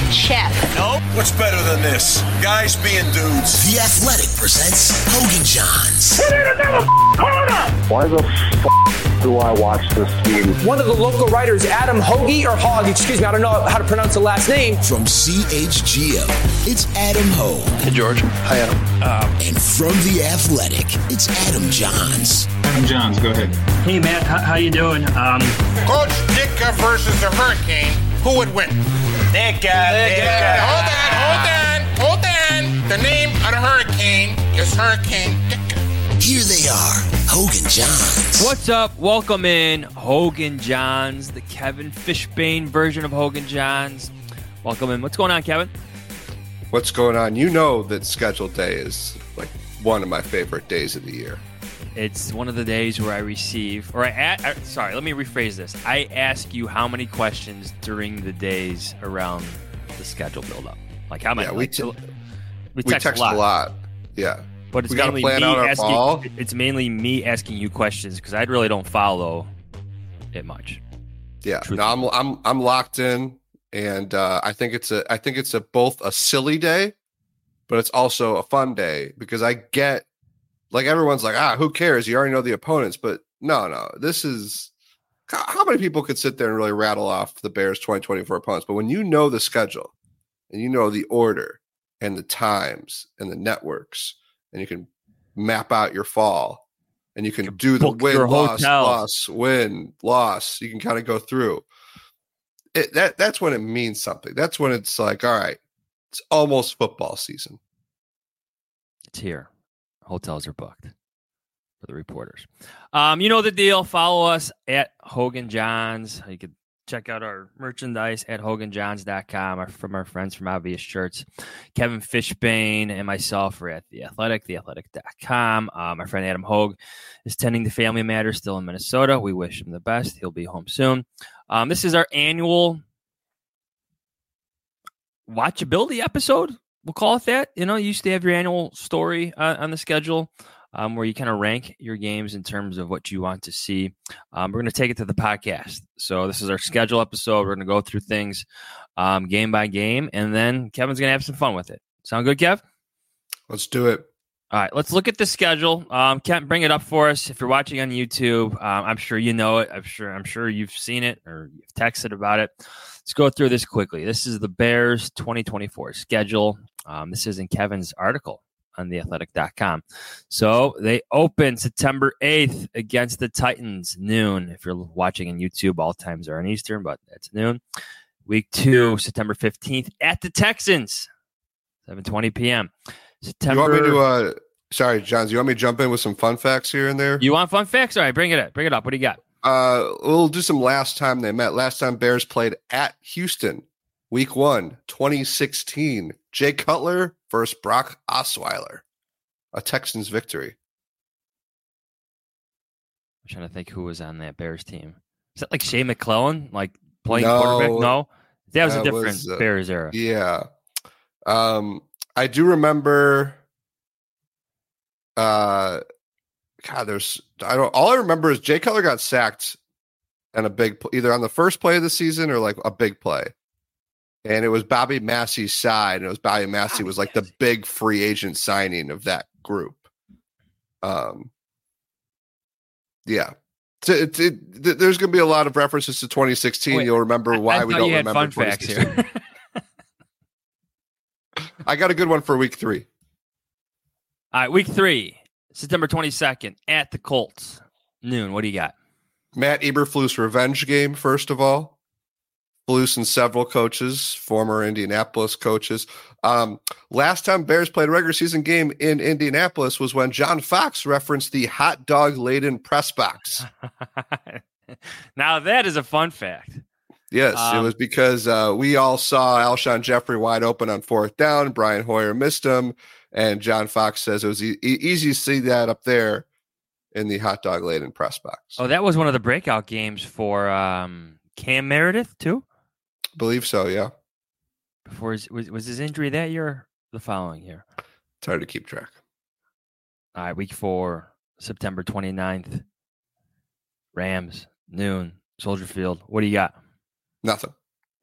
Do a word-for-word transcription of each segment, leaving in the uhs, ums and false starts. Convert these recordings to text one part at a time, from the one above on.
chef. Nope. What's better than this? Guys being dudes. The Athletic presents Hogan Johns. We need another corner! Why the f*** do I watch this team? One of the local writers, Adam Hoagie, or Hogg, excuse me, I don't know how to pronounce the last name. From C H G O, it's Adam Hogue. Hey, George. Hi, Adam. Um, and from The Athletic, it's Adam Johns. Adam Johns, go ahead. Hey, Matt, how, how you doing? Um, Coach Ditka versus the Hurricane, who would win? Ditka, Ditka. Hold on, hold on, hold on. The name of the Hurricane is Hurricane Ditka. Here they are, Hogan Johns. What's up? Welcome in, Hogan Johns, the Kevin Fishbain version of Hogan Johns. Welcome in. What's going on, Kevin? What's going on? You know that scheduled day is like one of my favorite days of the year. It's one of the days where I receive, or I, I sorry, let me rephrase this. I ask you how many questions during the days around the schedule build-up. Like how many? Yeah, we, like, t- we, we text, text a lot. a lot. Yeah. But it's we gotta mainly plan me out our asking. fall. It's mainly me asking you questions because I really don't follow it much. Yeah, Truthfully. no, I'm I'm I'm locked in, and uh, I think it's a I think it's a both a silly day, but it's also a fun day because I get like everyone's like ah who cares, you already know the opponents, but no no this is how many people could sit there and really rattle off the Bears twenty twenty-four opponents, but when you know the schedule and you know the order and the times and the networks. And you can map out your fall, and you can you do the win, loss, hotel. loss, win, loss. You can kind of go through it. That that's when it means something. That's when it's like, all right, it's almost football season. It's here. Hotels are booked for the reporters. Um, you know the deal. Follow us at Hogan Johns. You can check out our merchandise at hogan johns dot com from our friends from Obvious Shirts. Kevin Fishbain and myself are at The Athletic, the athletic dot com. Uh, my friend Adam Hogue is tending to family matters still in Minnesota. We wish him the best. He'll be home soon. Um, this is our annual watchability episode. We'll call it that. You know, you used to have your annual story uh, on the schedule. Um, where you kind of rank your games in terms of what you want to see. Um, we're going to take it to the podcast. So this is our schedule episode. We're going to go through things um, game by game, and then Kevin's going to have some fun with it. Sound good, Kev? Let's do it. All right, let's look at the schedule. Um, Kevin, bring it up for us. If you're watching on YouTube, um, I'm sure you know it. I'm sure I'm sure you've seen it or you've texted about it. Let's go through this quickly. This is the Bears twenty twenty-four schedule. Um, this is in Kevin's article on the athletic dot com. So they open September eighth against the Titans, noon. If you're watching on YouTube, all times are in Eastern, but that's noon. Week two, September fifteenth at the Texans, seven twenty p.m. September. You want me to, uh, sorry, Johns, you want me to jump in with some fun facts here and there? You want fun facts? All right, bring it up. Bring it up. What do you got? Uh, we'll do some last time they met. Last time Bears played at Houston, week one, twenty sixteen. Jay Cutler versus Brock Osweiler. A Texans victory. I'm trying to think who was on that Bears team. Is that like Shea McClellan, like playing no, quarterback? No, that was that a different was, uh, Bears era. Yeah. Um, I do remember. Uh, God, there's I don't. All I remember is Jay Cutler got sacked, and a big either on the first play of the season or like a big play. And it was Bobby Massey's side, and it was Bobby Massey Bobby was like Massey. the big free agent signing of that group. Um, yeah, so it, it, it, there's going to be a lot of references to twenty sixteen. Wait, You'll remember why I we don't you had remember fun facts here. I got a good one for week three. All right, week three, September twenty-second at the Colts, noon. What do you got? Matt Eberflus revenge game. First of all. Flus and several coaches, former Indianapolis coaches. Um, last time Bears played a regular season game in Indianapolis was when John Fox referenced the hot dog laden press box. Now that is a fun fact. Yes, um, it was because uh, we all saw Alshon Jeffrey wide open on fourth down. Brian Hoyer missed him, and John Fox says it was e- easy to see that up there in the hot dog laden press box. Oh, that was one of the breakout games for um, Cam Meredith too. Believe so, yeah. Before his, was was his injury that year or the following year? It's hard to keep track. All right, week four, September twenty-ninth. Rams, noon, Soldier Field. What do you got? Nothing.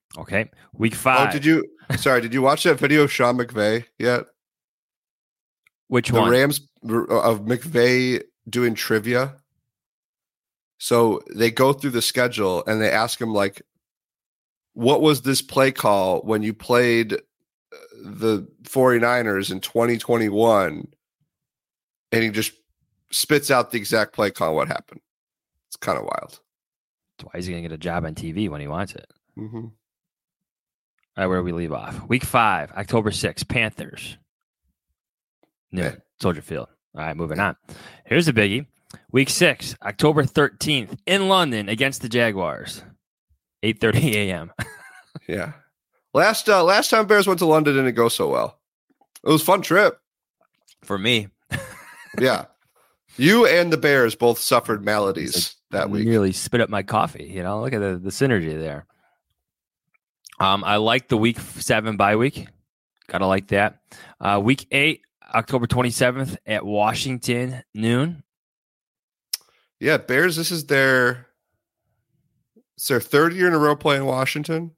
Okay. Week five. Oh, did you? Sorry, did you watch that video of Sean McVay yet? Which the one? The Rams of McVay doing trivia. So they go through the schedule and they ask him, like, what was this play call when you played the 49ers in twenty twenty-one? And he just spits out the exact play call. What happened? It's kind of wild. That's why he's going to get a job on T V when he wants it. Mm-hmm. All right, where do we leave off? Week five, October sixth, Panthers. No, yeah. Soldier Field. All right, moving on. Here's a biggie. Week six, October thirteenth, in London against the Jaguars. eight thirty a.m. Yeah. Last uh, last time Bears went to London didn't go so well. It was a fun trip. For me. Yeah. You and the Bears both suffered maladies like, that week. Nearly spit up my coffee. You know, look at the, the synergy there. Um, I like the week seven bye week. Gotta like that. Uh, week eight, October twenty-seventh at Washington, noon. Yeah, Bears, this is their it's their third year in a row playing Washington.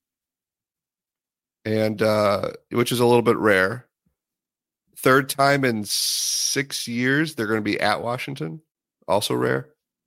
And uh, which is a little bit rare. Third time in six years they're going to be at Washington. Also rare.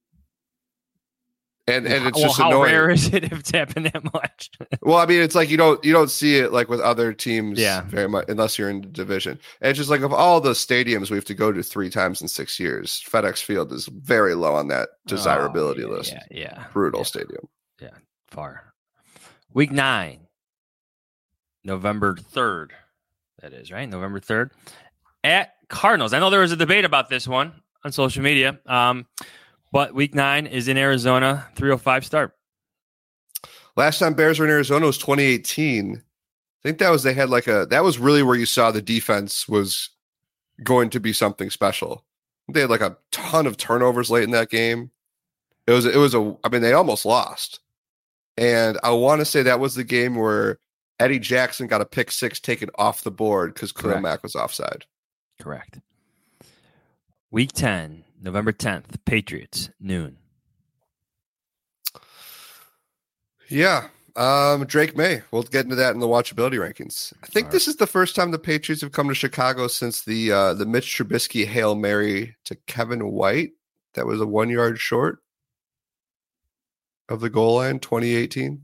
And and it's well, just how annoying. rare is it if it's happened that much? Well, I mean, it's like you don't you don't see it like with other teams, yeah. very much unless you're in the division. And it's just like of all the stadiums we have to go to three times in six years, FedEx Field is very low on that desirability oh, yeah, list. Yeah, yeah, brutal yeah. stadium. Yeah, far. Week nine, November third. That is right, November third at Cardinals. I know there was a debate about this one on social media. Um, But week nine is in Arizona, three oh five start. Last time Bears were in Arizona was twenty eighteen. I think that was, they had like a, that was really where you saw the defense was going to be something special. They had like a ton of turnovers late in that game. It was, it was a, I mean, they almost lost. And I want to say that was the game where Eddie Jackson got a pick six taken off the board because Khalil Mack was offside. Correct. Week ten. November tenth, Patriots, noon. Yeah. Um, Drake May. We'll get into that in the watchability rankings. I think All this right. is the first time the Patriots have come to Chicago since the uh, the Mitch Trubisky Hail Mary to Kevin White. That was a one yard short of the goal line, twenty eighteen.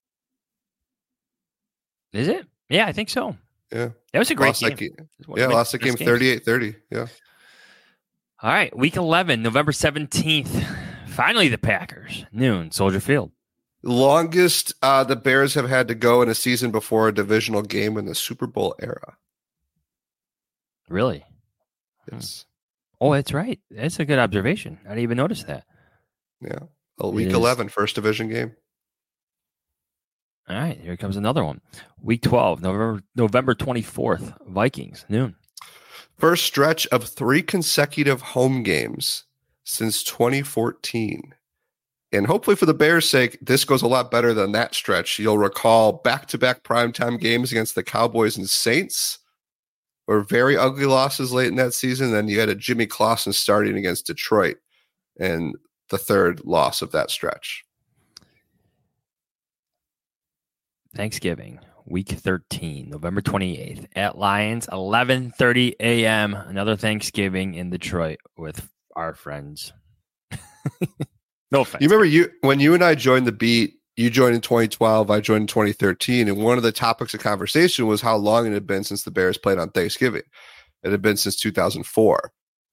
Is it? Yeah, I think so. Yeah. That was a great lost game. That game. Yeah, lost the game thirty-eight thirty. Yeah. All right, week eleven, November seventeenth. Finally, the Packers, noon, Soldier Field. Longest uh, the Bears have had to go in a season before a divisional game in the Super Bowl era. Really? Yes. Oh, that's right. That's a good observation. I didn't even notice that. Yeah. Well, week eleven, first division game. All right, here comes another one. Week twelve, November November twenty-fourth, Vikings, noon. First stretch of three consecutive home games since twenty fourteen. And hopefully for the Bears' sake, this goes a lot better than that stretch. You'll recall back-to-back primetime games against the Cowboys and Saints were very ugly losses late in that season. Then you had a Jimmy Clausen starting against Detroit and the third loss of that stretch. Thanksgiving. Week thirteen, November twenty-eighth, at Lions, eleven thirty a.m. Another Thanksgiving in Detroit with our friends. No offense. You remember you when you and I joined the beat, you joined in twenty twelve, I joined in twenty thirteen, and one of the topics of conversation was how long it had been since the Bears played on Thanksgiving. It had been since two thousand four.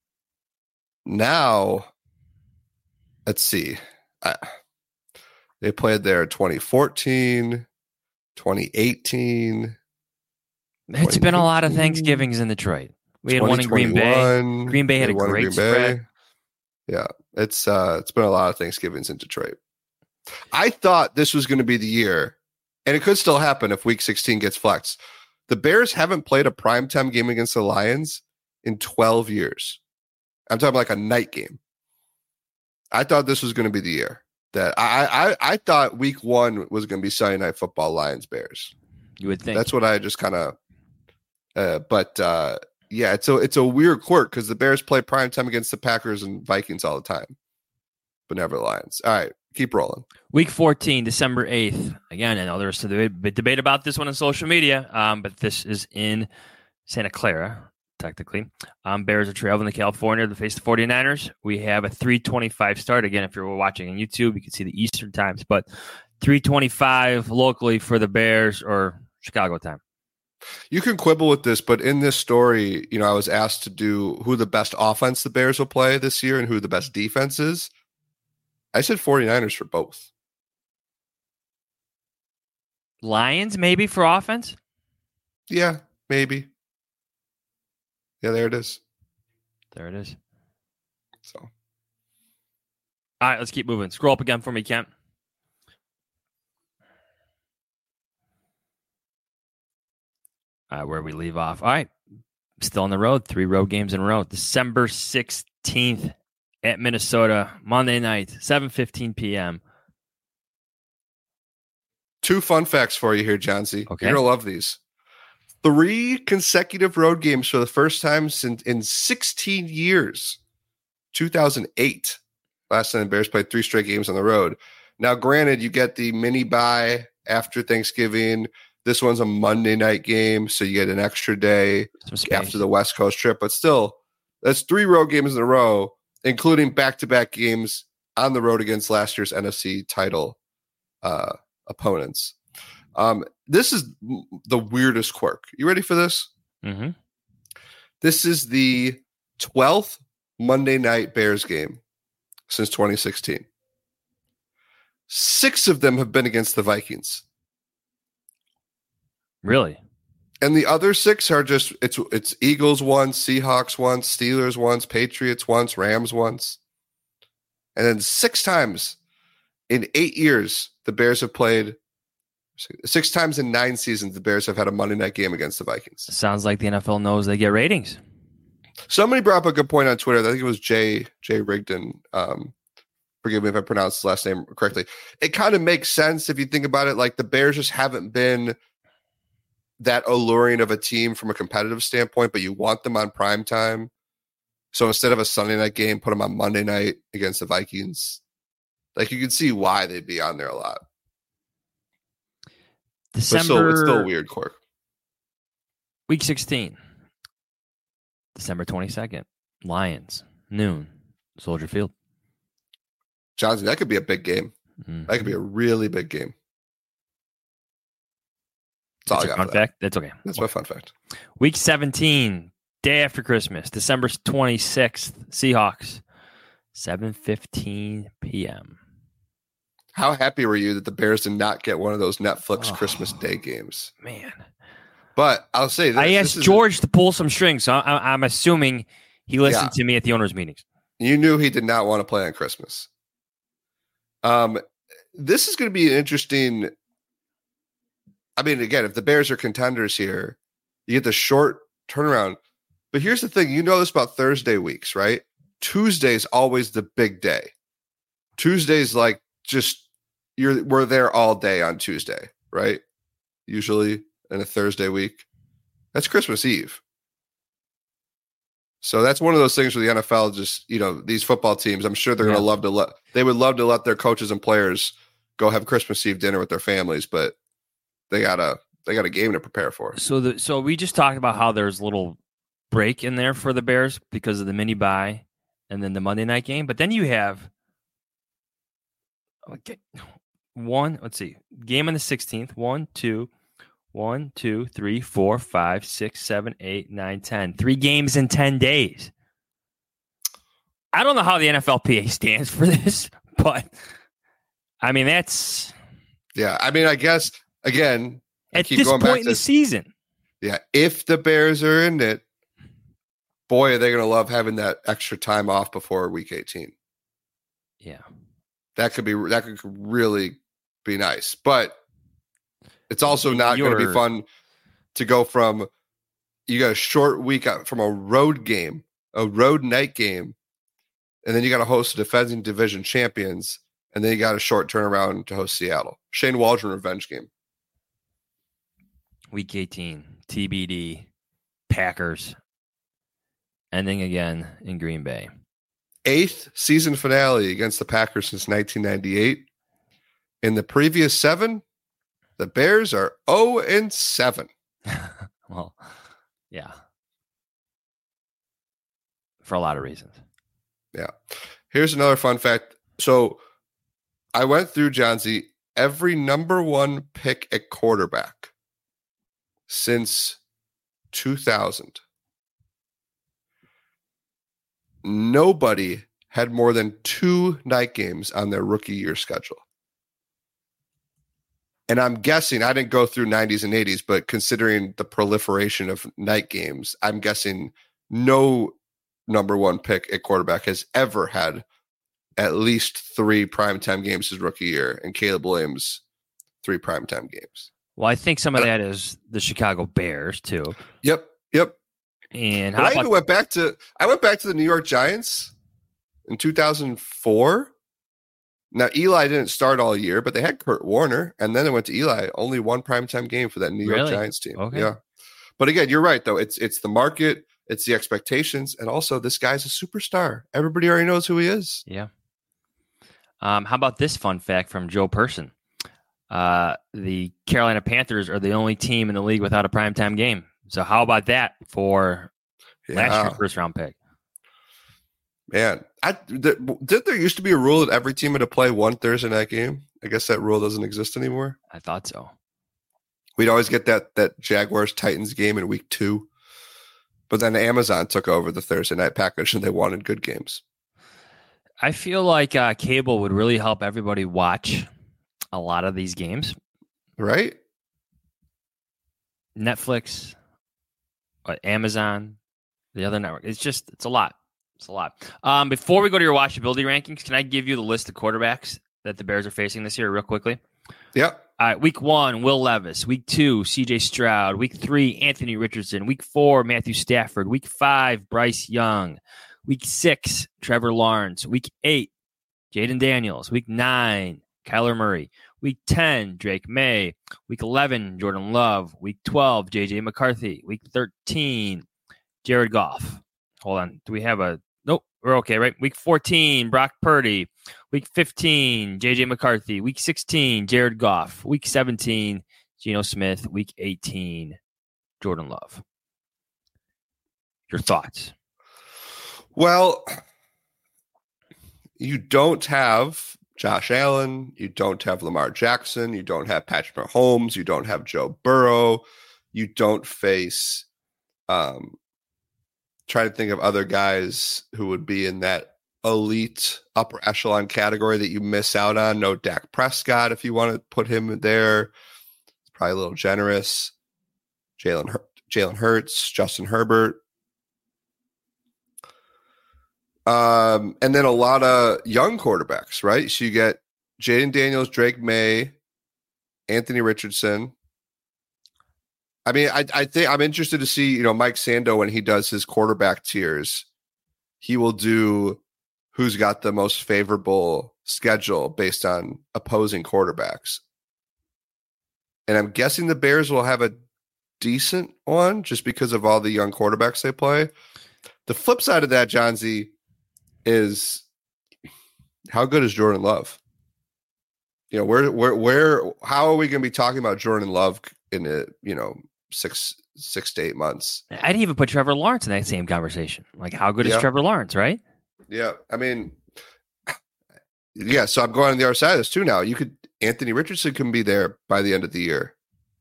Now, let's see. I, they played there in twenty fourteen. twenty eighteen. It's been a lot of Thanksgivings in Detroit. We had one in Green Bay. Green Bay had a great spread. Yeah, it's uh, it's been a lot of Thanksgivings in Detroit. I thought this was going to be the year, and it could still happen if Week sixteen gets flexed. The Bears haven't played a primetime game against the Lions in twelve years. I'm talking like a night game. I thought this was going to be the year. That I, I I thought week one was going to be Sunday Night Football, Lions Bears. You would think. That's what I just kind of. Uh, but uh, yeah, it's a it's a weird quirk because the Bears play primetime against the Packers and Vikings all the time, but never the Lions. All right, keep rolling. Week fourteen, December eighth. Again, I know there's a bit debate about this one on social media, um, but this is in Santa Clara, technically. Um, Bears are traveling to California to face the 49ers. We have a three twenty-five start. Again, if you're watching on YouTube, you can see the Eastern times, but three twenty-five locally for the Bears or Chicago time. You can quibble with this, but in this story, you know, I was asked to do who the best offense the Bears will play this year and who the best defense is. I said 49ers for both. Lions, maybe, for offense? Yeah, maybe. Yeah, there it is. There it is. So, all right, let's keep moving. Scroll up again for me, Kent. All right, where we leave off. All right, still on the road. Three road games in a row. December sixteenth at Minnesota, Monday night, seven fifteen p.m. Two fun facts for you here, John C. Okay. You're going to love these. Three consecutive road games for the first time since in sixteen years. two thousand eight. Last time the Bears played three straight games on the road. Now, granted, you get the mini bye after Thanksgiving. This one's a Monday night game, so you get an extra day after the West Coast trip. But still, that's three road games in a row, including back-to-back games on the road against last year's N F C title uh, opponents. Um, this is the weirdest quirk. You ready for this? Mm-hmm. This is the twelfth Monday night Bears game since twenty sixteen. Six of them have been against the Vikings. Really? And the other six are just, it's it's Eagles once, Seahawks once, Steelers once, Patriots once, Rams once. And then six times in eight years, the Bears have played, six times in nine seasons, the Bears have had a Monday night game against the Vikings. Sounds like the N F L knows they get ratings. Somebody brought up a good point on Twitter. I think it was Jay, Jay Rigdon. Um, forgive me if I pronounced his last name correctly. It kind of makes sense if you think about it. Like, the Bears just haven't been that alluring of a team from a competitive standpoint, but you want them on prime time. So instead of a Sunday night game, put them on Monday night against the Vikings. Like, you can see why they'd be on there a lot. December, but still, it's still a weird quirk. Week sixteen, December twenty-second, Lions, noon, Soldier Field. Johnson, that could be a big game. Mm-hmm. That could be a really big game. That's all I got fun for that. fact. That's okay. That's my fun fact. Week seventeen, day after Christmas, December twenty-sixth, Seahawks, seven fifteen p.m. How happy were you that the Bears did not get one of those Netflix oh, Christmas Day games? Man. But I'll say this. I asked this George to pull some strings, so I, I'm assuming he listened yeah. to me at the owners' meetings. You knew he did not want to play on Christmas. Um, this is going to be an interesting. I mean, again, if the Bears are contenders here, you get the short turnaround. But here's the thing. You know this about Thursday weeks, right? Tuesday's always the big day. Tuesday's like just, you're we're there all day on Tuesday, right? Usually in a Thursday week. That's Christmas Eve. So that's one of those things where the N F L just, you know, these football teams, I'm sure they're yeah. going to love to let, they would love to let their coaches and players go have Christmas Eve dinner with their families, but they got a, they got a game to prepare for. So the, so we just talked about how there's a little break in there for the Bears because of the mini bye and then the Monday night game. But then you have okay, one, let's see, game on the sixteenth, one, two, One, two, three, four, five, six, seven, eight, nine, ten. Three games in ten days. I don't know how the N F L P A stands for this, but I mean, that's. Yeah, I mean, I guess, again, I at keep this going point back in to, the season. Yeah, if the Bears are in it, boy, are they going to love having that extra time off before week eighteen. Yeah. That could be, that could really be nice. But it's also not going to be fun to go from, you got a short week out from a road game, a road night game, and then you got to host the defending division champions, and then you got a short turnaround to host Seattle. Shane Waldron revenge game. Week eighteen, T B D, Packers, ending again in Green Bay. eighth season finale against the Packers since nineteen ninety-eight. In the previous seven, the Bears are oh and seven. Well, yeah. For a lot of reasons. Yeah. Here's another fun fact. So I went through, Johnsy, every number one pick at quarterback since two thousand. Nobody had more than two night games on their rookie year schedule. And I'm guessing, I didn't go through nineties and eighties, but considering the proliferation of night games, I'm guessing no number one pick at quarterback has ever had at least three primetime games his rookie year, and Caleb Williams, three primetime games. Well, I think some of that is the Chicago Bears, too. Yep, yep. And how I even went back to I went back to the New York Giants in two thousand four. Now, Eli didn't start all year, but they had Kurt Warner, and then it went to Eli. Only one primetime game for that New York really? Giants team. Okay. Yeah. But again, you're right, though. It's it's the market, it's the expectations, and also this guy's a superstar. Everybody already knows who he is. Yeah. Um, how about this fun fact from Joe Person? Uh, the Carolina Panthers are the only team in the league without a primetime game. So how about that for Yeah. last year's first round pick? Man, I th- did there used to be a rule that every team had to play one Thursday night game? I guess that rule doesn't exist anymore. I thought so. We'd always get that that Jaguars Titans game in week two, but then Amazon took over the Thursday night package and they wanted good games. I feel like uh, cable would really help everybody watch a lot of these games, right? Netflix, uh, Amazon, the other network. It's just it's a lot. It's a lot. Um, before we go to your watchability rankings, can I give you the list of quarterbacks that the Bears are facing this year real quickly? Yep. All right, week one, Will Levis. Week two, C J Stroud. Week three, Anthony Richardson. Week four, Matthew Stafford. Week five, Bryce Young. Week six, Trevor Lawrence. Week eight, Jaden Daniels. Week nine, Kyler Murray. Week ten, Drake May. Week eleven, Jordan Love. Week twelve, J J McCarthy. Week thirteen, Jared Goff. Hold on. Do we have a... Nope, we're okay, right? Week fourteen, Brock Purdy. Week fifteen, J J McCarthy. Week sixteen, Jared Goff. Week seventeen, Geno Smith. Week eighteen, Jordan Love. Your thoughts? Well, you don't have Josh Allen. You don't have Lamar Jackson. You don't have Patrick Mahomes. You don't have Joe Burrow. You don't face... Um, try to think of other guys who would be in that elite upper echelon category that you miss out on. No Dak Prescott, if you want to put him there. It's probably a little generous. Jalen Hur- Jalen Hurts, Justin Herbert. Um, and then a lot of young quarterbacks, right? So you get Jaden Daniels, Drake May, Anthony Richardson. I mean, I, I think I'm interested to see, you know, Mike Sando when he does his quarterback tiers, he will do who's got the most favorable schedule based on opposing quarterbacks. And I'm guessing the Bears will have a decent one just because of all the young quarterbacks they play. The flip side of that, John Z, is how good is Jordan Love? You know, where, where, where, how are we going to be talking about Jordan Love in a, you know, six, six to eight months? I'd even put Trevor Lawrence in that same conversation. Like, how good yeah. is Trevor Lawrence, right? Yeah. I mean, yeah. So I'm going on the other side of this too now. You could, Anthony Richardson can be there by the end of the year.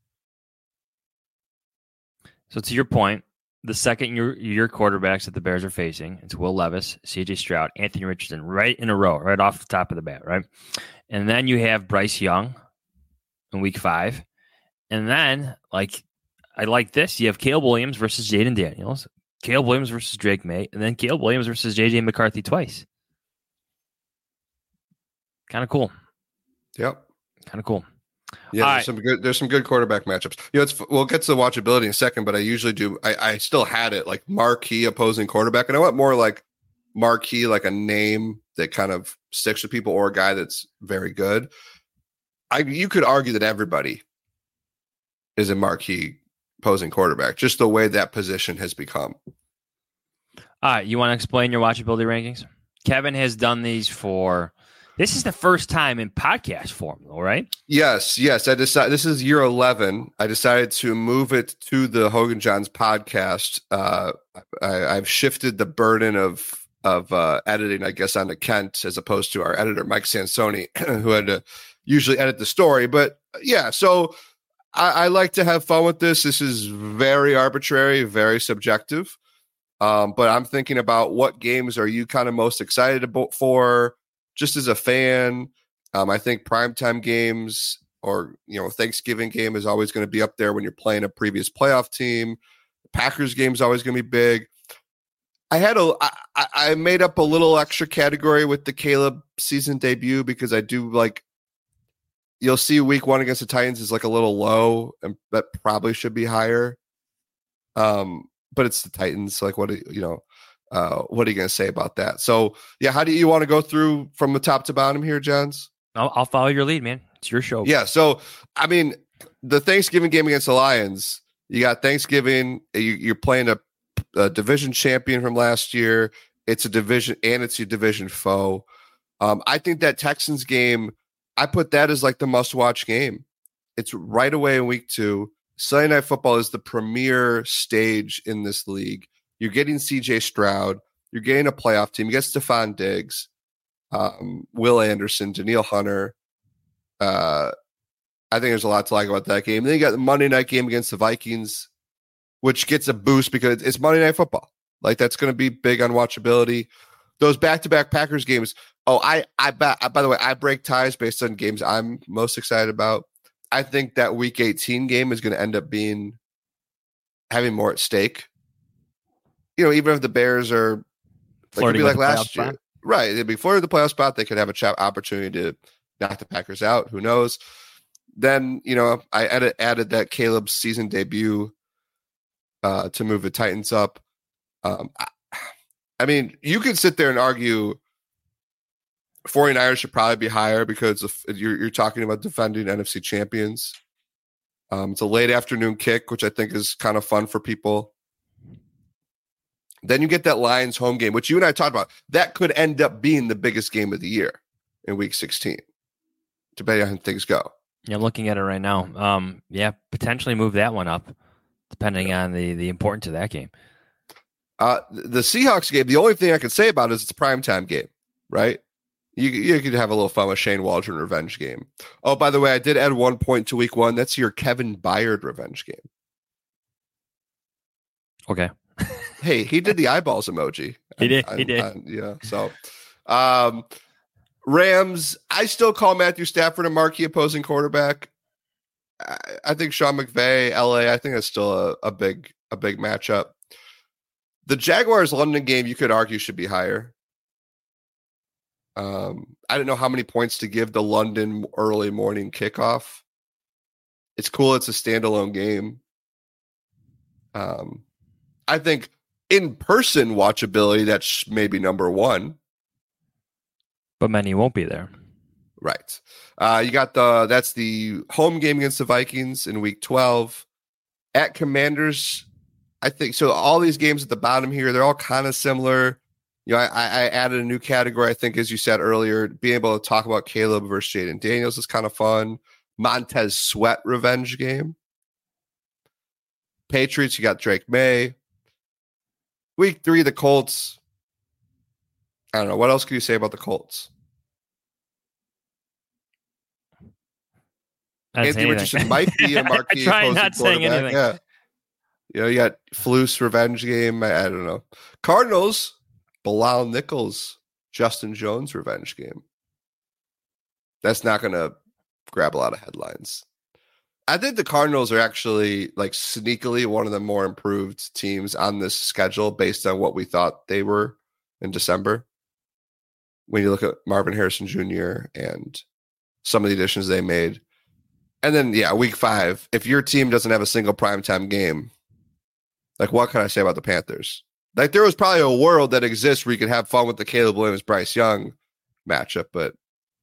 So to your point, the second year, year quarterbacks that the Bears are facing, it's Will Levis, C J Stroud, Anthony Richardson, right in a row, right off the top of the bat, right? And then you have Bryce Young in week five. And then, like, I like this. You have Caleb Williams versus Jaden Daniels, Caleb Williams versus Drake May, and then Caleb Williams versus J J McCarthy twice. Kind of cool. Yep. Kind of cool. Yeah, All there's right. some good. There's some good quarterback matchups. You know, it's we'll get to the watchability in a second, but I usually do. I, I still had it like marquee opposing quarterback, and I went more like marquee, like a name that kind of sticks with people, or a guy that's very good. I you could argue that everybody is a marquee opposing quarterback, just the way that position has become. All right, you want to explain your watchability rankings? Kevin has done these for. This is the first time in podcast form, though, right? Yes, yes. I decided this is year eleven. I decided to move it to the Hogan Johns podcast. Uh, I, I've shifted the burden of of uh, editing, I guess, onto Kent as opposed to our editor Mike Sansoni, who had to usually edit the story. But yeah, so I, I like to have fun with this. This is very arbitrary, very subjective. Um, but I'm thinking about what games are you kind of most excited about for? Just as a fan, um, I think primetime games or, you know, Thanksgiving game is always going to be up there when you're playing a previous playoff team. The Packers game is always going to be big. I had a, I, I made up a little extra category with the Caleb season debut because I do like, you'll see week one against the Titans is like a little low and that probably should be higher. Um, but it's the Titans. Like what, do you know, Uh, what are you going to say about that? So, yeah, how do you want to go through from the top to bottom here, Johns? I'll, I'll follow your lead, man. It's your show. Yeah. So, I mean, the Thanksgiving game against the Lions, you got Thanksgiving. You, you're playing a, a division champion from last year. It's a division and it's your division foe. Um, I think that Texans game, I put that as like the must watch game. It's right away in week two. Sunday Night Football is the premier stage in this league. You're getting C J Stroud. You're getting a playoff team. You get Stephon Diggs, um, Will Anderson, Danielle Hunter. Uh, I think there's a lot to like about that game. Then you got the Monday night game against the Vikings, which gets a boost because it's Monday Night Football. Like that's going to be big on watchability. Those back-to-back Packers games. Oh, I, I, by the way, I break ties based on games I'm most excited about. I think that Week eighteen game is going to end up being having more at stake. You know, even if the Bears are like, it'd be like last year, spot. Right? It'd be flirting the playoff spot. They could have a chat opportunity to knock the Packers out. Who knows? Then, you know, I added, added that Caleb's season debut uh, to move the Titans up. Um, I, I mean, you could sit there and argue 49ers should probably be higher because of, you're, you're talking about defending N F C champions. Um, it's a late afternoon kick, which I think is kind of fun for people. Then you get that Lions home game, which you and I talked about. That could end up being the biggest game of the year in week sixteen, depending on how things go. Yeah, I'm looking at it right now. Um, yeah, potentially move that one up, depending yeah. on the, the importance of that game. Uh, the Seahawks game, the only thing I can say about it is it's a primetime game, right? You, you could have a little fun with Shane Waldron revenge game. Oh, by the way, I did add one point to week one. That's your Kevin Byard revenge game. Okay. Hey, he did the eyeballs emoji. He did. On, he did. On, yeah. So, um, Rams. I still call Matthew Stafford a marquee opposing quarterback. I, I think Sean McVay, L A. I think that's still a, a big, a big matchup. The Jaguars London game, you could argue, should be higher. Um, I don't know how many points to give the London early morning kickoff. It's cool. It's a standalone game. Um, I think in-person watchability, that's maybe number one. But many won't be there. Right. Uh, you got the, that's the home game against the Vikings in week twelve. At Commanders, I think, so all these games at the bottom here, they're all kind of similar. You know, I, I added a new category, I think, as you said earlier, being able to talk about Caleb versus Jaden Daniels is kind of fun. Montez Sweat revenge game. Patriots, you got Drake May. Week three, the Colts. I don't know. What else can you say about the Colts? Anthony Richardson might be a marquee opposing not saying anything. Yeah. You know, you got Flus revenge game. I, I don't know. Cardinals, Bilal Nichols, Justin Jones revenge game. That's not going to grab a lot of headlines. I think the Cardinals are actually like sneakily one of the more improved teams on this schedule based on what we thought they were in December. When you look at Marvin Harrison Junior and some of the additions they made. And then, yeah, week five, if your team doesn't have a single primetime game, like what can I say about the Panthers? Like there was probably a world that exists where you could have fun with the Caleb Williams, Bryce Young matchup, but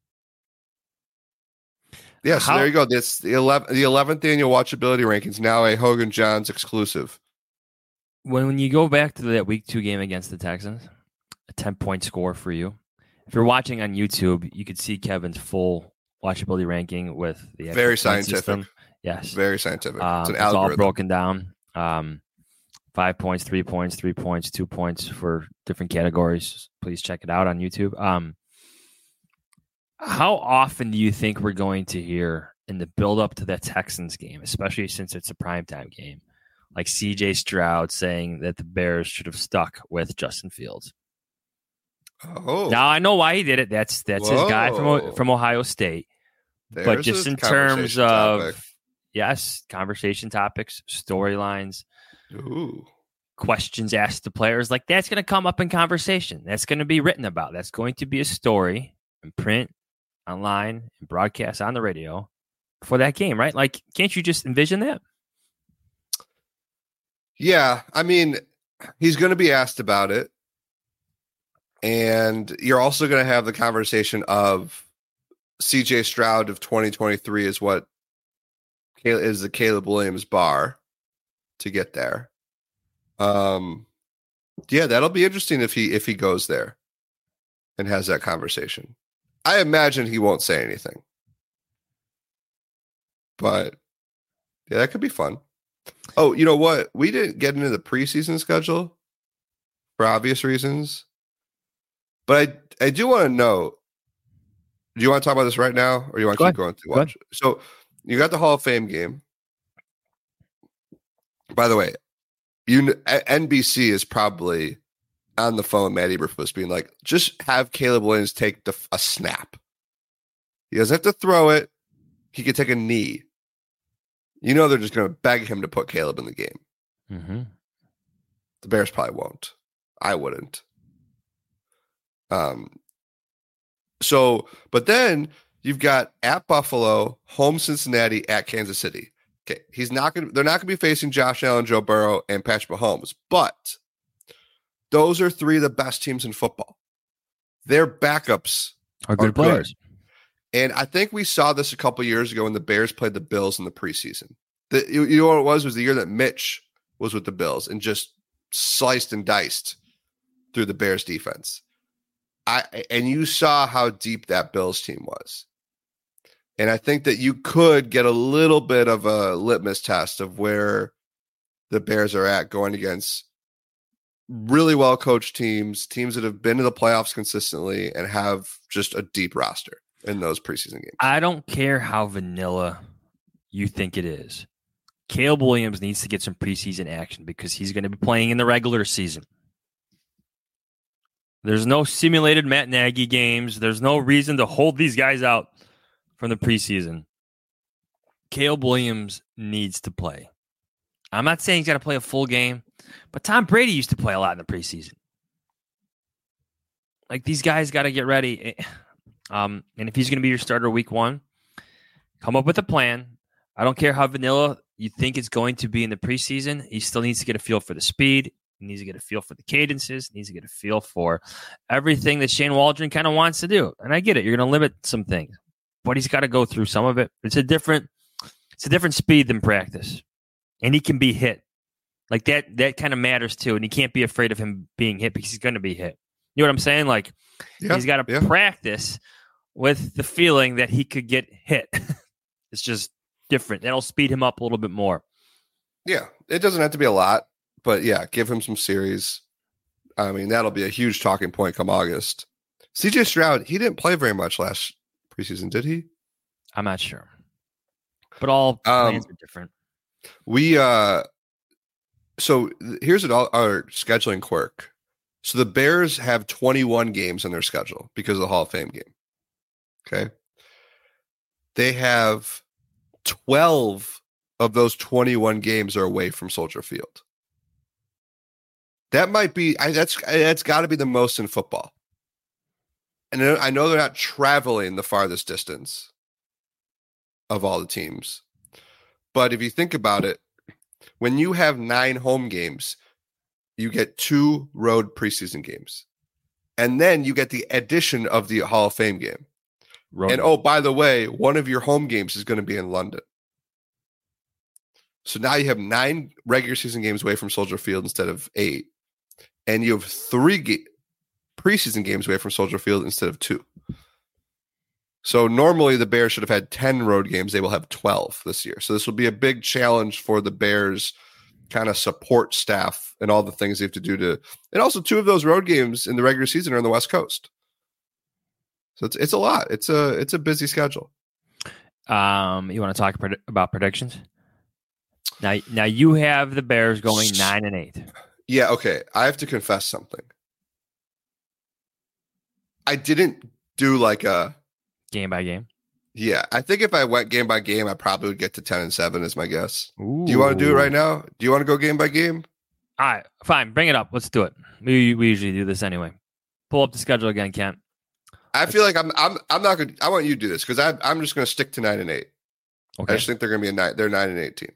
yeah, so How? there you go. This the eleventh the eleventh annual watchability rankings, now a Hogan Johns exclusive. When when you go back to that week two game against the Texans, a ten-point score for you. If you're watching on YouTube, you could see Kevin's full watchability ranking with the very scientific. System. Yes, very scientific. Um, it's an it's algorithm. all broken down. Um, five points, three points, three points, two points for different categories. Please check it out on YouTube. Um, how often do you think we're going to hear in the build-up to the Texans game, especially since it's a primetime game, like C J Stroud saying that the Bears should have stuck with Justin Fields? Oh, now I know why he did it. That's that's Whoa. his guy from from Ohio State. There's but just in terms of topic. yes, conversation topics, storylines, Ooh. questions asked to players, like that's going to come up in conversation. That's going to be written about. That's going to be a story in print, online, and broadcast on the radio for that game, right? Like, can't you just envision that? Yeah, I mean, he's going to be asked about it. And you're also going to have the conversation of C J Stroud of twenty twenty-three is what is the Caleb Williams bar to get there. Um, yeah, that'll be interesting if he if he goes there and has that conversation. I imagine he won't say anything, but yeah, that could be fun. Oh, you know what? We didn't get into the preseason schedule for obvious reasons. But I, I do want to know, do you want to talk about this right now, or do you want to Go keep ahead. going through Go watch? So you got the Hall of Fame game. By the way, you N B C is probably on the phone, Matt Eberflus, being like, just have Caleb Williams take the, a snap. He doesn't have to throw it. He could take a knee. You know they're just going to beg him to put Caleb in the game. Mm-hmm. The Bears probably won't. I wouldn't. Um. So, but then you've got at Buffalo, home Cincinnati, at Kansas City. Okay, he's not going. They're not going to be facing Josh Allen, Joe Burrow, and Patrick Mahomes. But those are three of the best teams in football. Their backups Are good are players. Good. And I think we saw this a couple years ago when the Bears played the Bills in the preseason. The, you, you know what it was? It was the year that Mitch was with the Bills and just sliced and diced through the Bears defense. I, and you saw how deep that Bills team was. And I think that you could get a little bit of a litmus test of where the Bears are at going against really well-coached teams, teams that have been to the playoffs consistently and have just a deep roster in those preseason games. I don't care how vanilla you think it is. Caleb Williams needs to get some preseason action because he's going to be playing in the regular season. There's no simulated Matt Nagy games. There's no reason to hold these guys out from the preseason. Caleb Williams needs to play. I'm not saying he's got to play a full game, but Tom Brady used to play a lot in the preseason. Like, these guys got to get ready. Um, and if he's going to be your starter week one, come up with a plan. I don't care how vanilla you think it's going to be in the preseason. He still needs to get a feel for the speed. He needs to get a feel for the cadences. He needs to get a feel for everything that Shane Waldron kind of wants to do. And I get it. You're going to limit some things, but he's got to go through some of it. It's a different, it's a different speed than practice, and he can be hit. Like that, that kind of matters too. And he can't be afraid of him being hit because he's going to be hit. You know what I'm saying? Like yeah, he's got to yeah. practice with the feeling that he could get hit. It's just different. That'll speed him up a little bit more. Yeah. It doesn't have to be a lot. But yeah, give him some series. I mean, that'll be a huge talking point come August. C J Stroud, he didn't play very much last preseason, did he? I'm not sure. But all plans um, are different. We uh so here's an, our scheduling quirk. So the Bears have twenty-one games on their schedule because of the Hall of Fame game. Okay. They have twelve of those twenty-one games are away from Soldier Field. That might be, I, that's that's got to be the most in football. And I know they're not traveling the farthest distance of all the teams. But if you think about it, when you have nine home games, you get two road preseason games. And then you get the addition of the Hall of Fame game. Road. And oh, by the way, one of your home games is going to be in London. So now you have nine regular season games away from Soldier Field instead of eight. And you have three ga- preseason games away from Soldier Field instead of two. So normally the Bears should have had ten road games. They will have twelve this year. So this will be a big challenge for the Bears kind of support staff and all the things they have to do to, and also two of those road games in the regular season are on the West Coast. So it's it's a lot. It's a it's a busy schedule. Um, you want to talk pred- about predictions? Now, now you have the Bears going nine and eight. Yeah. Okay. I have to confess something. I didn't do like a game by game. Yeah, I think if I went game by game, I probably would get to ten and seven. Is my guess. Ooh. Do you want to do it right now? Do you want to go game by game? All right, fine. Bring it up. Let's do it. We we usually do this anyway. Pull up the schedule again, Kent. I feel like I'm I'm I'm not gonna. I want you to do this because I I'm just gonna stick to nine and eight. Okay. I just think they're gonna be a nine. They're nine and eighteen.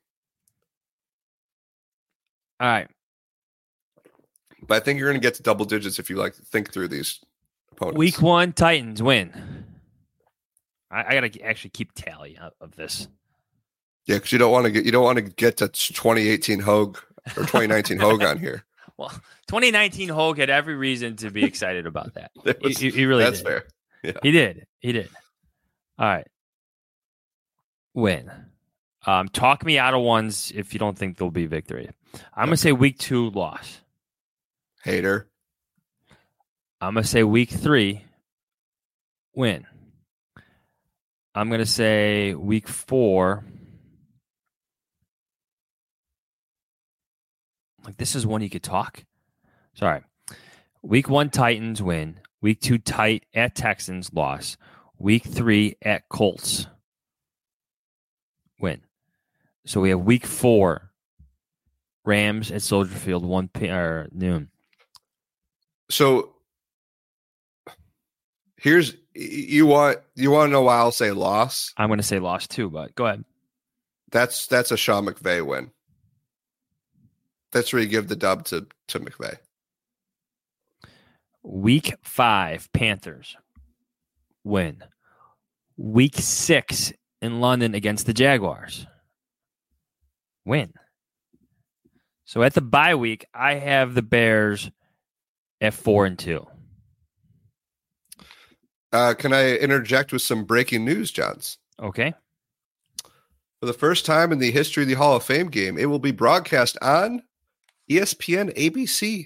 All right. But I think you're gonna get to double digits if you like think through these opponents. Week one, Titans win. I, I gotta actually keep tally of, of this. Yeah, because you don't want to get you don't want to get to twenty eighteen Hogue or twenty nineteen Hogue on here. Well, twenty nineteen Hogue had every reason to be excited about that. was, he, he really that's did. fair. Yeah. He did. He did. All right. Win. Um, talk me out of ones if you don't think there'll be victory. I'm gonna say week two loss. Hater. I'm gonna say week three win. I'm gonna say week four. Like this is one you could talk. Sorry. Week one Titans win. Week two tight at Texans loss. Week three at Colts win. So we have week four Rams at Soldier Field one p or noon. So here's you want you want to know why I'll say loss? I'm going to say loss too, but go ahead. That's that's a Sean McVay win. That's where you give the dub to to McVay. Week five Panthers win. Week six in London against the Jaguars win. So at the bye week, I have the Bears at four and two. Uh, can I interject with some breaking news, Johns? Okay. For the first time in the history of the Hall of Fame game, it will be broadcast on E S P N A B C.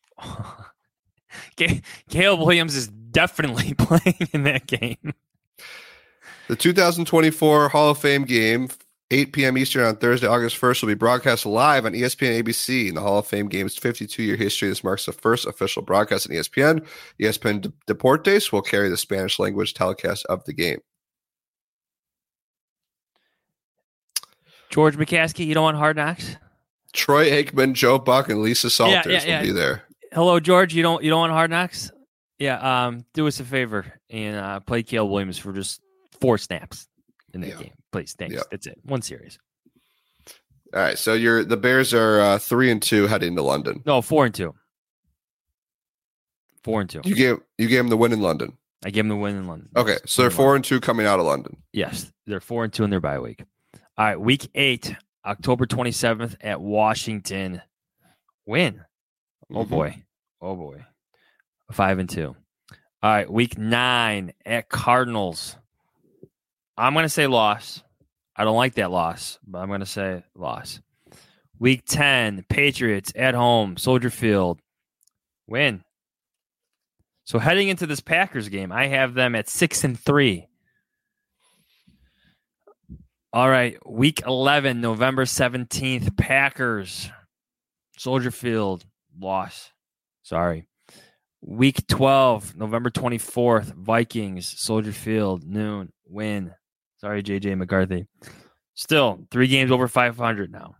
Caleb Williams is definitely playing in that game. The two thousand twenty-four Hall of Fame game, eight p.m. Eastern on Thursday, August first, will be broadcast live on E S P N A B C. In the Hall of Fame game's fifty-two-year history, this marks the first official broadcast on E S P N. E S P N Deportes will carry the Spanish language telecast of the game. George McCaskey, you don't want Hard Knocks? Troy Aikman, Joe Buck, and Lisa Salters yeah, yeah, yeah. will be there. Hello, George. You don't you don't want Hard Knocks? Yeah. Um. Do us a favor and uh, play Caleb Williams for just four snaps in that yeah. game, please. Thanks. Yeah. That's it. One series. All right. So you're the Bears are uh, three and two heading to London. No, four and two. Four and two. You gave you gave them the win in London. I gave them the win in London. Okay, so they're four and two coming out of London. Yes, they're four and two in their bye week. All right, week eight, October twenty seventh at Washington. Win. Oh Mhm. boy. Oh boy. Five and two. All right, week nine at Cardinals. I'm gonna say loss. I don't like that loss, but I'm gonna say loss. Week ten, Patriots at home, Soldier Field. Win. So heading into this Packers game, I have them at six and three. All right, week eleven, November seventeenth, Packers, Soldier Field, loss. Sorry. Week twelve, November twenty-fourth, Vikings, Soldier Field, noon, win. Sorry, J J McCarthy. Still, three games over five hundred now.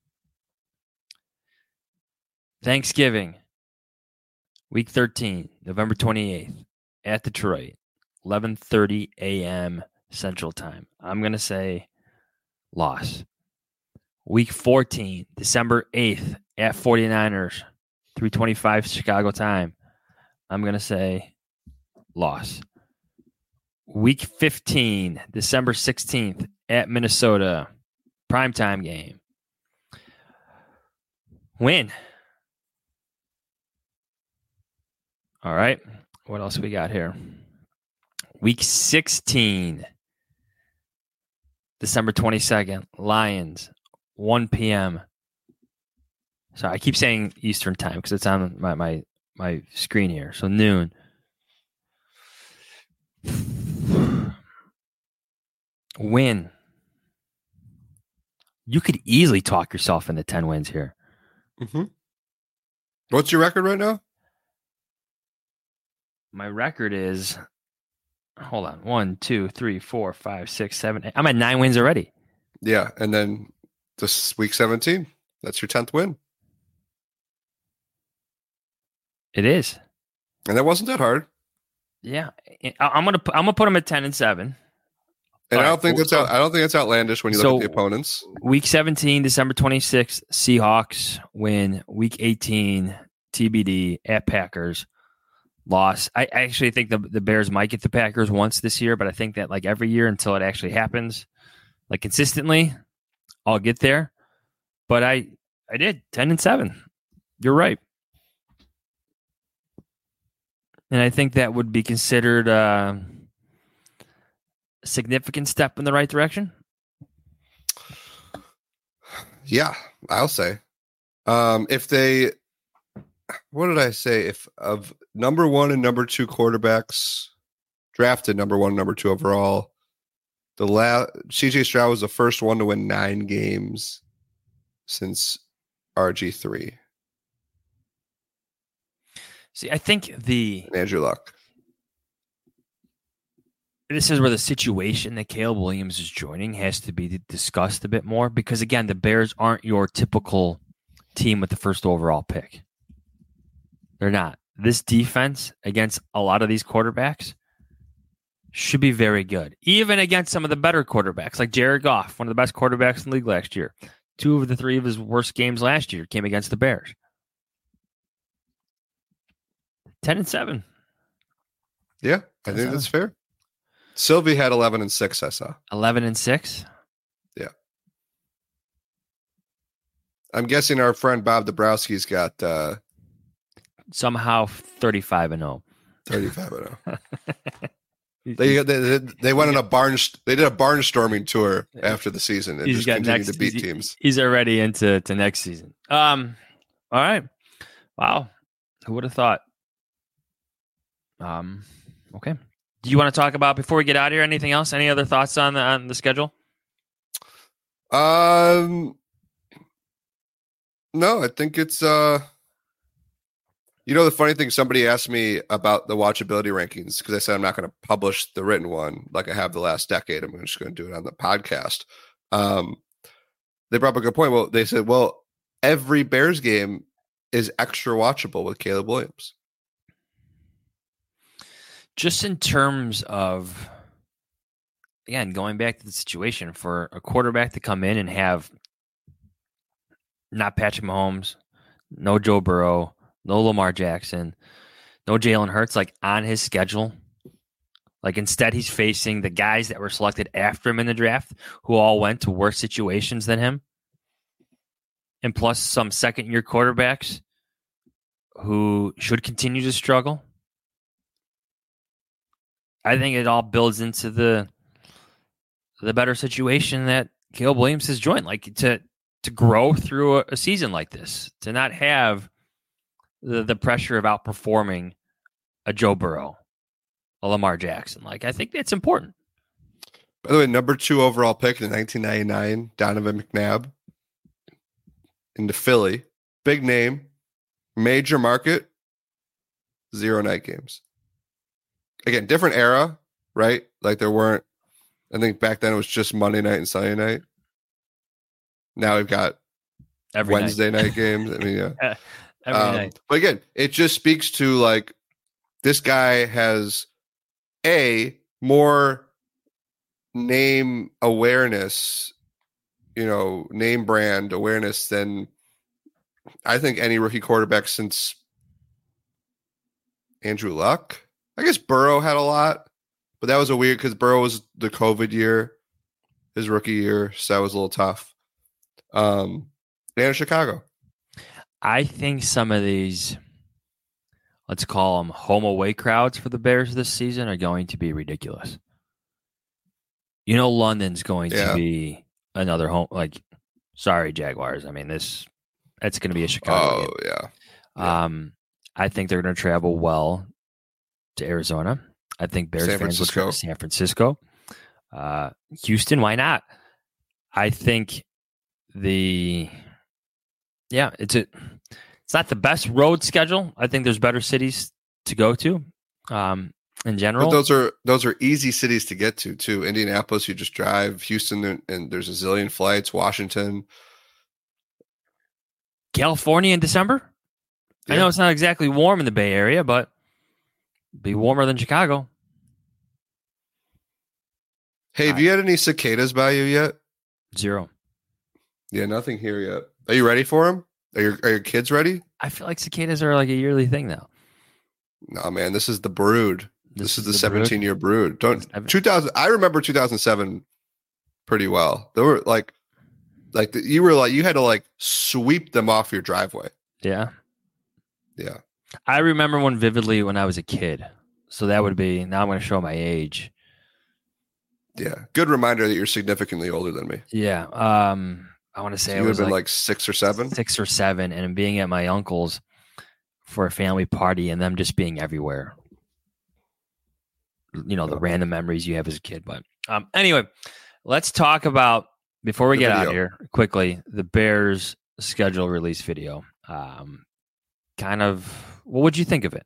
Thanksgiving, week thirteen, November twenty-eighth, at Detroit, eleven thirty a.m. Central Time. I'm going to say loss. Week fourteen, December eighth, at 49ers, three twenty-five Chicago time. I'm going to say loss. Week fifteen, December sixteenth, at Minnesota, primetime game. Win. All right. What else we got here? Week sixteen, December twenty-second, Lions, one p.m. Sorry, I keep saying Eastern time because it's on my, my, my screen here. So noon. Win. You could easily talk yourself into ten wins here. Mm-hmm. What's your record right now? My record is, hold on, one, two, three, four, five, six, seven, eight. I'm at nine wins already. Yeah, and then this week seventeen, that's your tenth win. It is, and that wasn't that hard. Yeah, I'm gonna I'm gonna put them at ten and seven. And All I don't right. think that's out, I don't think it's outlandish when you so, look at the opponents. Week seventeen, December twenty-sixth, Seahawks win. Week eighteen, T B D at Packers. Loss. I actually think the the Bears might get the Packers once this year, but I think that like every year until it actually happens, like consistently, I'll get there. But I I did ten and seven. You're right, and I think that would be considered uh, a significant step in the right direction. Yeah, I'll say um, if they. What did I say? If of number one and number two quarterbacks drafted number one, number two overall, the la- C J Stroud was the first one to win nine games since R G three. See, I think the and Andrew Luck. This is where the situation that Caleb Williams is joining has to be discussed a bit more because again, the Bears aren't your typical team with the first overall pick. They're not. This defense against a lot of these quarterbacks should be very good. Even against some of the better quarterbacks, like Jared Goff, one of the best quarterbacks in the league last year. Two of the three of his worst games last year came against the Bears. Ten and seven. Yeah, I think seven. That's fair. Sylvie had eleven and six, I saw. Eleven and six? Yeah. I'm guessing our friend Bob Dabrowski's got uh somehow thirty-five and oh. thirty-five and oh. they, they they went on a barn. They did a barnstorming tour after the season and he's just got continued next, to beat he's, teams. He's already into to next season. Um. All right. Wow. Who would have thought? Um. Okay. Do you want to talk about before we get out of here? Anything else? Any other thoughts on the on the schedule? Um. No, I think it's uh. You know, the funny thing, somebody asked me about the watchability rankings because I said I'm not going to publish the written one like I have the last decade. I'm just going to do it on the podcast. Um, they brought up a good point. Well, they said, well, every Bears game is extra watchable with Caleb Williams. Just in terms of, again, going back to the situation for a quarterback to come in and have not Patrick Mahomes, no Joe Burrow, no Lamar Jackson, no Jalen Hurts, like on his schedule. Like instead, he's facing the guys that were selected after him in the draft, who all went to worse situations than him. And plus some second-year quarterbacks who should continue to struggle. I think it all builds into the the better situation that Caleb Williams has joined. Like to to grow through a, a season like this, to not have The, the pressure of outperforming a Joe Burrow, a Lamar Jackson. Like, I think that's important. By the way, number two overall pick in nineteen ninety-nine, Donovan McNabb into Philly. Big name, major market, zero night games. Again, different era, right? Like there weren't, I think back then it was just Monday night and Sunday night. Now we've got Every Wednesday night, night games. I mean, yeah. Every um, night. But again, it just speaks to like this guy has a more name awareness, you know, name brand awareness than I think any rookie quarterback since Andrew Luck. I guess Burrow had a lot, but that was a weird because Burrow was the COVID year, his rookie year, so that was a little tough. Um, and Chicago. I think some of these, let's call them home away crowds for the Bears this season are going to be ridiculous. You know, London's going Yeah. to be another home. Like, sorry, Jaguars. I mean, this it's going to be a Chicago. Oh game. yeah. Yeah. Um, I think they're going to travel well to Arizona. I think Bears San fans will Francisco. travel to San Francisco. Uh, Houston, why not? I think the yeah, it's a it's not the best road schedule. I think there's better cities to go to. Um, in general, But those are those are easy cities to get to too. Indianapolis, you just drive. Houston, and, and there's a zillion flights. Washington, California in December. I Yeah. know it's not exactly warm in the Bay Area, but be warmer than Chicago. Hey, have you had any cicadas by you yet? Zero. Yeah, nothing here yet. Are you ready for them? Are your are your kids ready? I feel like cicadas are like a yearly thing now. No, man. This is the brood. This, This is is the the seventeen year brood. Don't Seven- two thousand. I remember two thousand seven pretty well. They were like, like the, you were like you had to like sweep them off your driveway. Yeah. Yeah. I remember one vividly when I was a kid. So that would be, now I'm going to show my age. Yeah. Good reminder that you're significantly older than me. Yeah. Um, I want to say So I you would was have been like, like six or seven. six or seven and being at my uncle's for a family party and them just being everywhere. You know, the random memories you have as a kid. But um, anyway, let's talk about, before we The get out video. of here, quickly, the Bears schedule release video. Um, kind of, what would you think of it?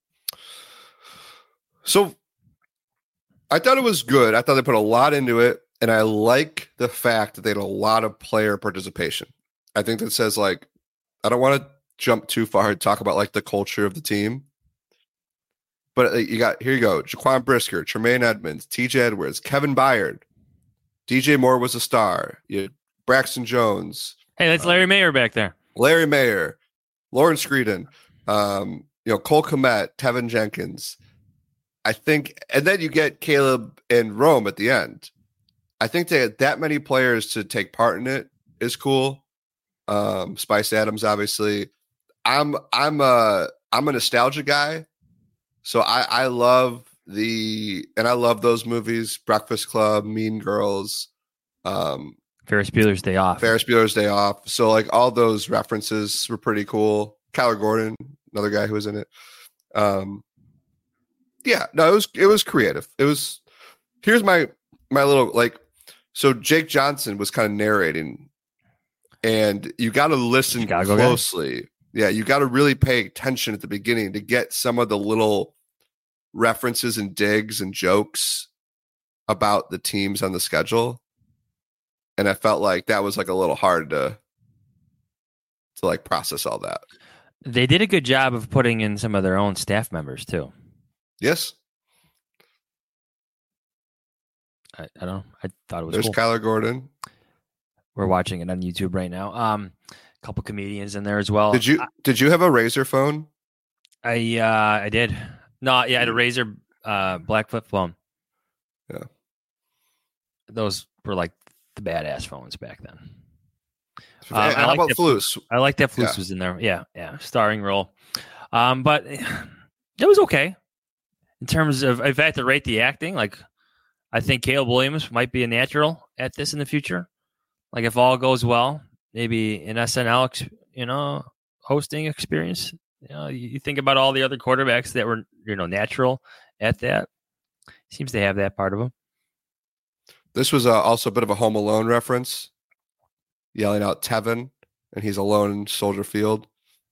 So I thought it was good. I thought they put a lot into it. And I like the fact that they had a lot of player participation. I think that says, like, I don't want to jump too far and talk about like the culture of the team. But uh, you got, here you go, Jaquan Brisker, Tremaine Edmonds, T J Edwards, Kevin Byard, D J Moore was a star. You had Braxton Jones, Hey, that's Larry Mayer back there. Larry Mayer, Lawrence Screeden, um, you know, Cole Kmet, Tevin Jenkins. I think, and then you get Caleb and Rome at the end. I think they had that many players to take part in it is cool. Um, Spice Adams, obviously. I'm I'm a I'm a nostalgia guy, so I I love the and I love those movies: Breakfast Club, Mean Girls, um, Ferris Bueller's Day Off. Ferris Bueller's Day Off. So like all those references were pretty cool. Kyler Gordon, another guy who was in it. Um, yeah, no, it was it was creative. It was. Here's my my little like. So Jake Johnson was kind of narrating, and you got to listen Chicago guy? closely. Yeah, you got to really pay attention at the beginning to get some of the little references and digs and jokes about the teams on the schedule. And I felt like that was like a little hard to to like process all that. They did a good job of putting in some of their own staff members too. Yes, I, I don't know. I thought it was there's cool. Kyler Gordon. We're watching it on YouTube right now. Um, a couple comedians in there as well. Did you did you have a Razor phone? I uh, I did. No, yeah, I had a Razer uh, black flip phone. Yeah. Those were like the badass phones back then. Hey, Um, I how like about that- Flus? I like that Flus Yeah. was in there. Yeah, yeah, starring role. Um, but it was okay in terms of if I had to rate the acting. Like, I think Caleb Williams might be a natural at this in the future. Like, if all goes well, maybe an S N L, ex- you know, hosting experience. You know, you, you think about all the other quarterbacks that were, you know, natural at that. Seems to have that part of them. This was uh, also a bit of a Home Alone reference, yelling out Tevin, and he's alone in Soldier Field.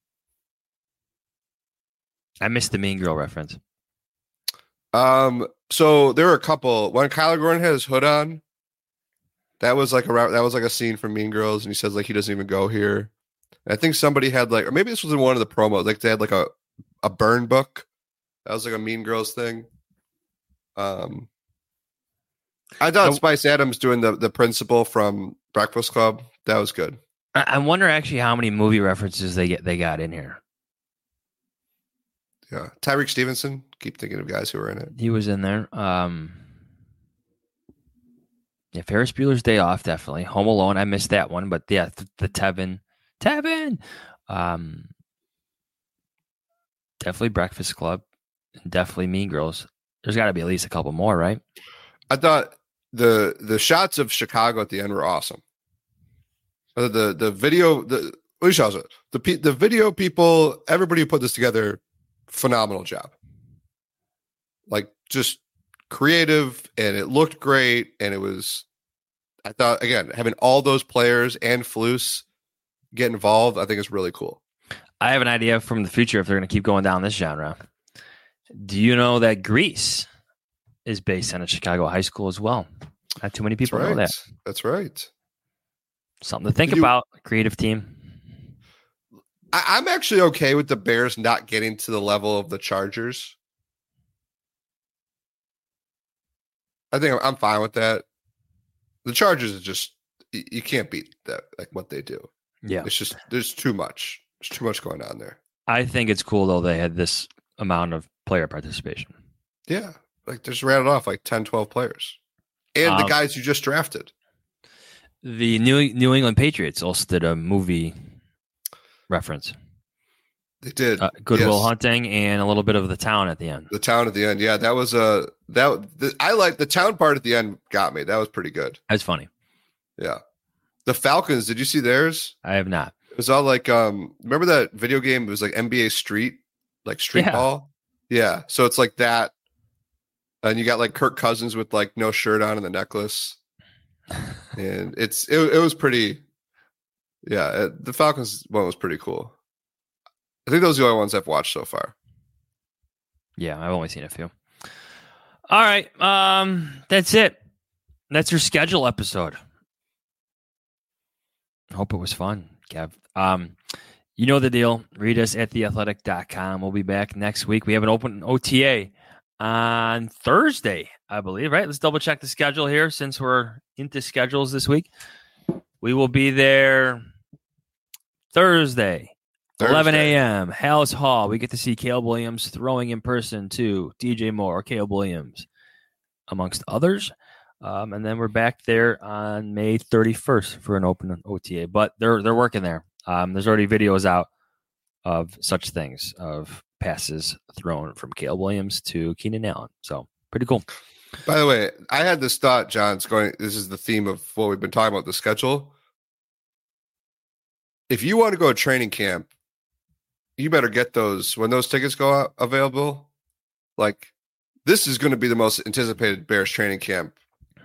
I missed the Mean Girl reference. Um, so there were a couple. When Kyler Gordon had his hood on, that was like a ra- that was like a scene from Mean Girls, and he says like he doesn't even go here. And I think somebody had like, or maybe this was in one of the promos, like they had like a a burn book. That was like a Mean Girls thing. Um, I thought So- Spice Adams doing the the principal from Breakfast Club, that was good. I, I wonder actually how many movie references they get they got in here. Yeah, Tyreek Stevenson. Keep thinking of guys who were in it. He was in there. Um, yeah, Ferris Bueller's Day Off, definitely. Home Alone, I missed that one, but yeah, the, the Tevin, Tevin. Um, definitely Breakfast Club, and definitely Mean Girls. There's got to be at least a couple more, right? I thought the the shots of Chicago at the end were awesome. Uh, the the video the what shows it the pe- the video people, everybody who put this together, phenomenal job. Like just creative, and it looked great, and it was. I thought again having all those players and Flus get involved, I think is really cool. I have an idea from the future if they're going to keep going down this genre. Do you know that Grease is based on a Chicago high school as well? Not too many people That's right. know that. That's right. Something to think Did you- about. Creative team. I, I'm actually okay with the Bears not getting to the level of the Chargers. I think I'm, I'm fine with that. The Chargers is just you, you can't beat that, like what they do. Yeah. It's just there's too much. There's too much going on there. I think it's cool, though, they had this amount of player participation. Yeah. Like just rattled off like ten, twelve players. And Um, the guys you just drafted. The New New England Patriots also did a movie reference. They did. Uh, Goodwill Yes. Hunting and a little bit of the town at the end. The town at the end. Yeah, that was a that the, I like the town part at the end got me. That was pretty good. That's funny. Yeah. The Falcons, did you see theirs? I have not. It was all like um remember that video game? It was like N B A Street, like street Yeah. ball. Yeah. So it's like that. And you got like Kirk Cousins with like no shirt on and the necklace. And it's it, it was pretty yeah, uh, the Falcons one was pretty cool. I think those are the only ones I've watched so far. Yeah, I've only seen a few. All right. Um, that's it. That's your schedule episode. Hope it was fun, Kev. Um, you know the deal. Read us at the athletic dot com. We'll be back next week. We have an open O T A on Thursday, I believe, right? Let's double check the schedule here since we're into schedules this week. We will be there Thursday. Thursday. eleven a.m. House Hall. We get to see Caleb Williams throwing in person to D J Moore, Caleb Williams, amongst others. Um, and then we're back there on May thirty-first for an open O T A. But they're they're working there. Um, there's already videos out of such things, of passes thrown from Caleb Williams to Keenan Allen. So pretty cool. By the way, I had this thought, John's going, this is the theme of what we've been talking about, the schedule. If you want to go to training camp, you better get those when those tickets go out available. Like, this is going to be the most anticipated Bears training camp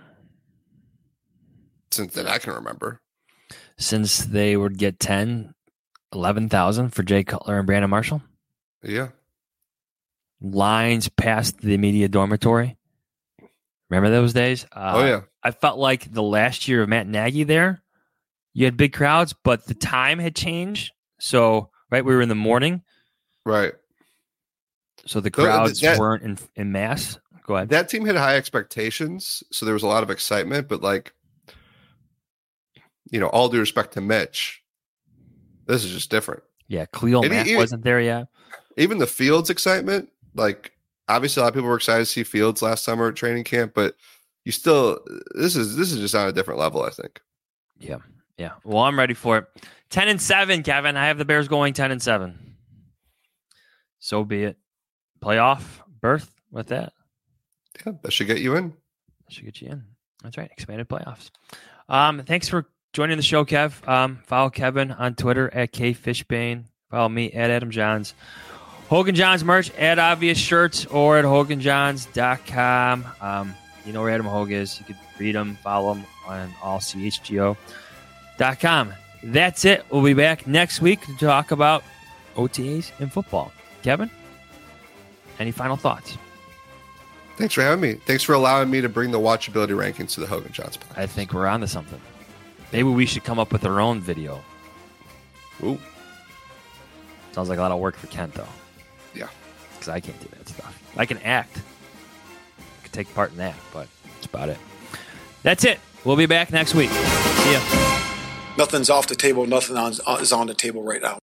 since that I can remember. Since they would get ten, eleven thousand for Jay Cutler and Brandon Marshall. Yeah. Lines past the media dormitory. Remember those days? Uh, Oh, yeah. I felt like the last year of Matt Nagy there, you had big crowds, but the time had changed. So, right, we were in the morning. Right. So the Th- crowds that- weren't in, in mass. Go ahead. That team had high expectations, so there was a lot of excitement, but like, you know, all due respect to Mitch, this is just different. Yeah, Khalil And Mack even- wasn't there yet. Even the Fields excitement, like obviously a lot of people were excited to see Fields last summer at training camp, but you still this is this is just on a different level, I think. Yeah, yeah. Well, I'm ready for it. Ten and seven, Kevin. I have the Bears going ten and seven. So be it. Playoff berth with that. Yeah, that should get you in. Should get you in. That's right. Expanded playoffs. Um, thanks for joining the show, Kev. Um, follow Kevin on Twitter at K Fishbane. Follow me at Adam Johns. Hogan Johns merch at Obvious Shirts or at Hogan Johns dot com. Um, you know where Adam Hogue is. You can read him, follow him on all C H G O dot com. That's it. We'll be back next week to talk about O T As in football. Kevin, any final thoughts? Thanks for having me. Thanks for allowing me to bring the watchability rankings to the Hogan Johns podcast. I think we're on to something. Maybe we should come up with our own video. Ooh. Sounds like a lot of work for Kent, though. Yeah. Because I can't do that stuff. I can act. I can take part in that, but that's about it. That's it. We'll be back next week. See ya. Nothing's off the table. Nothing on, is on the table right now.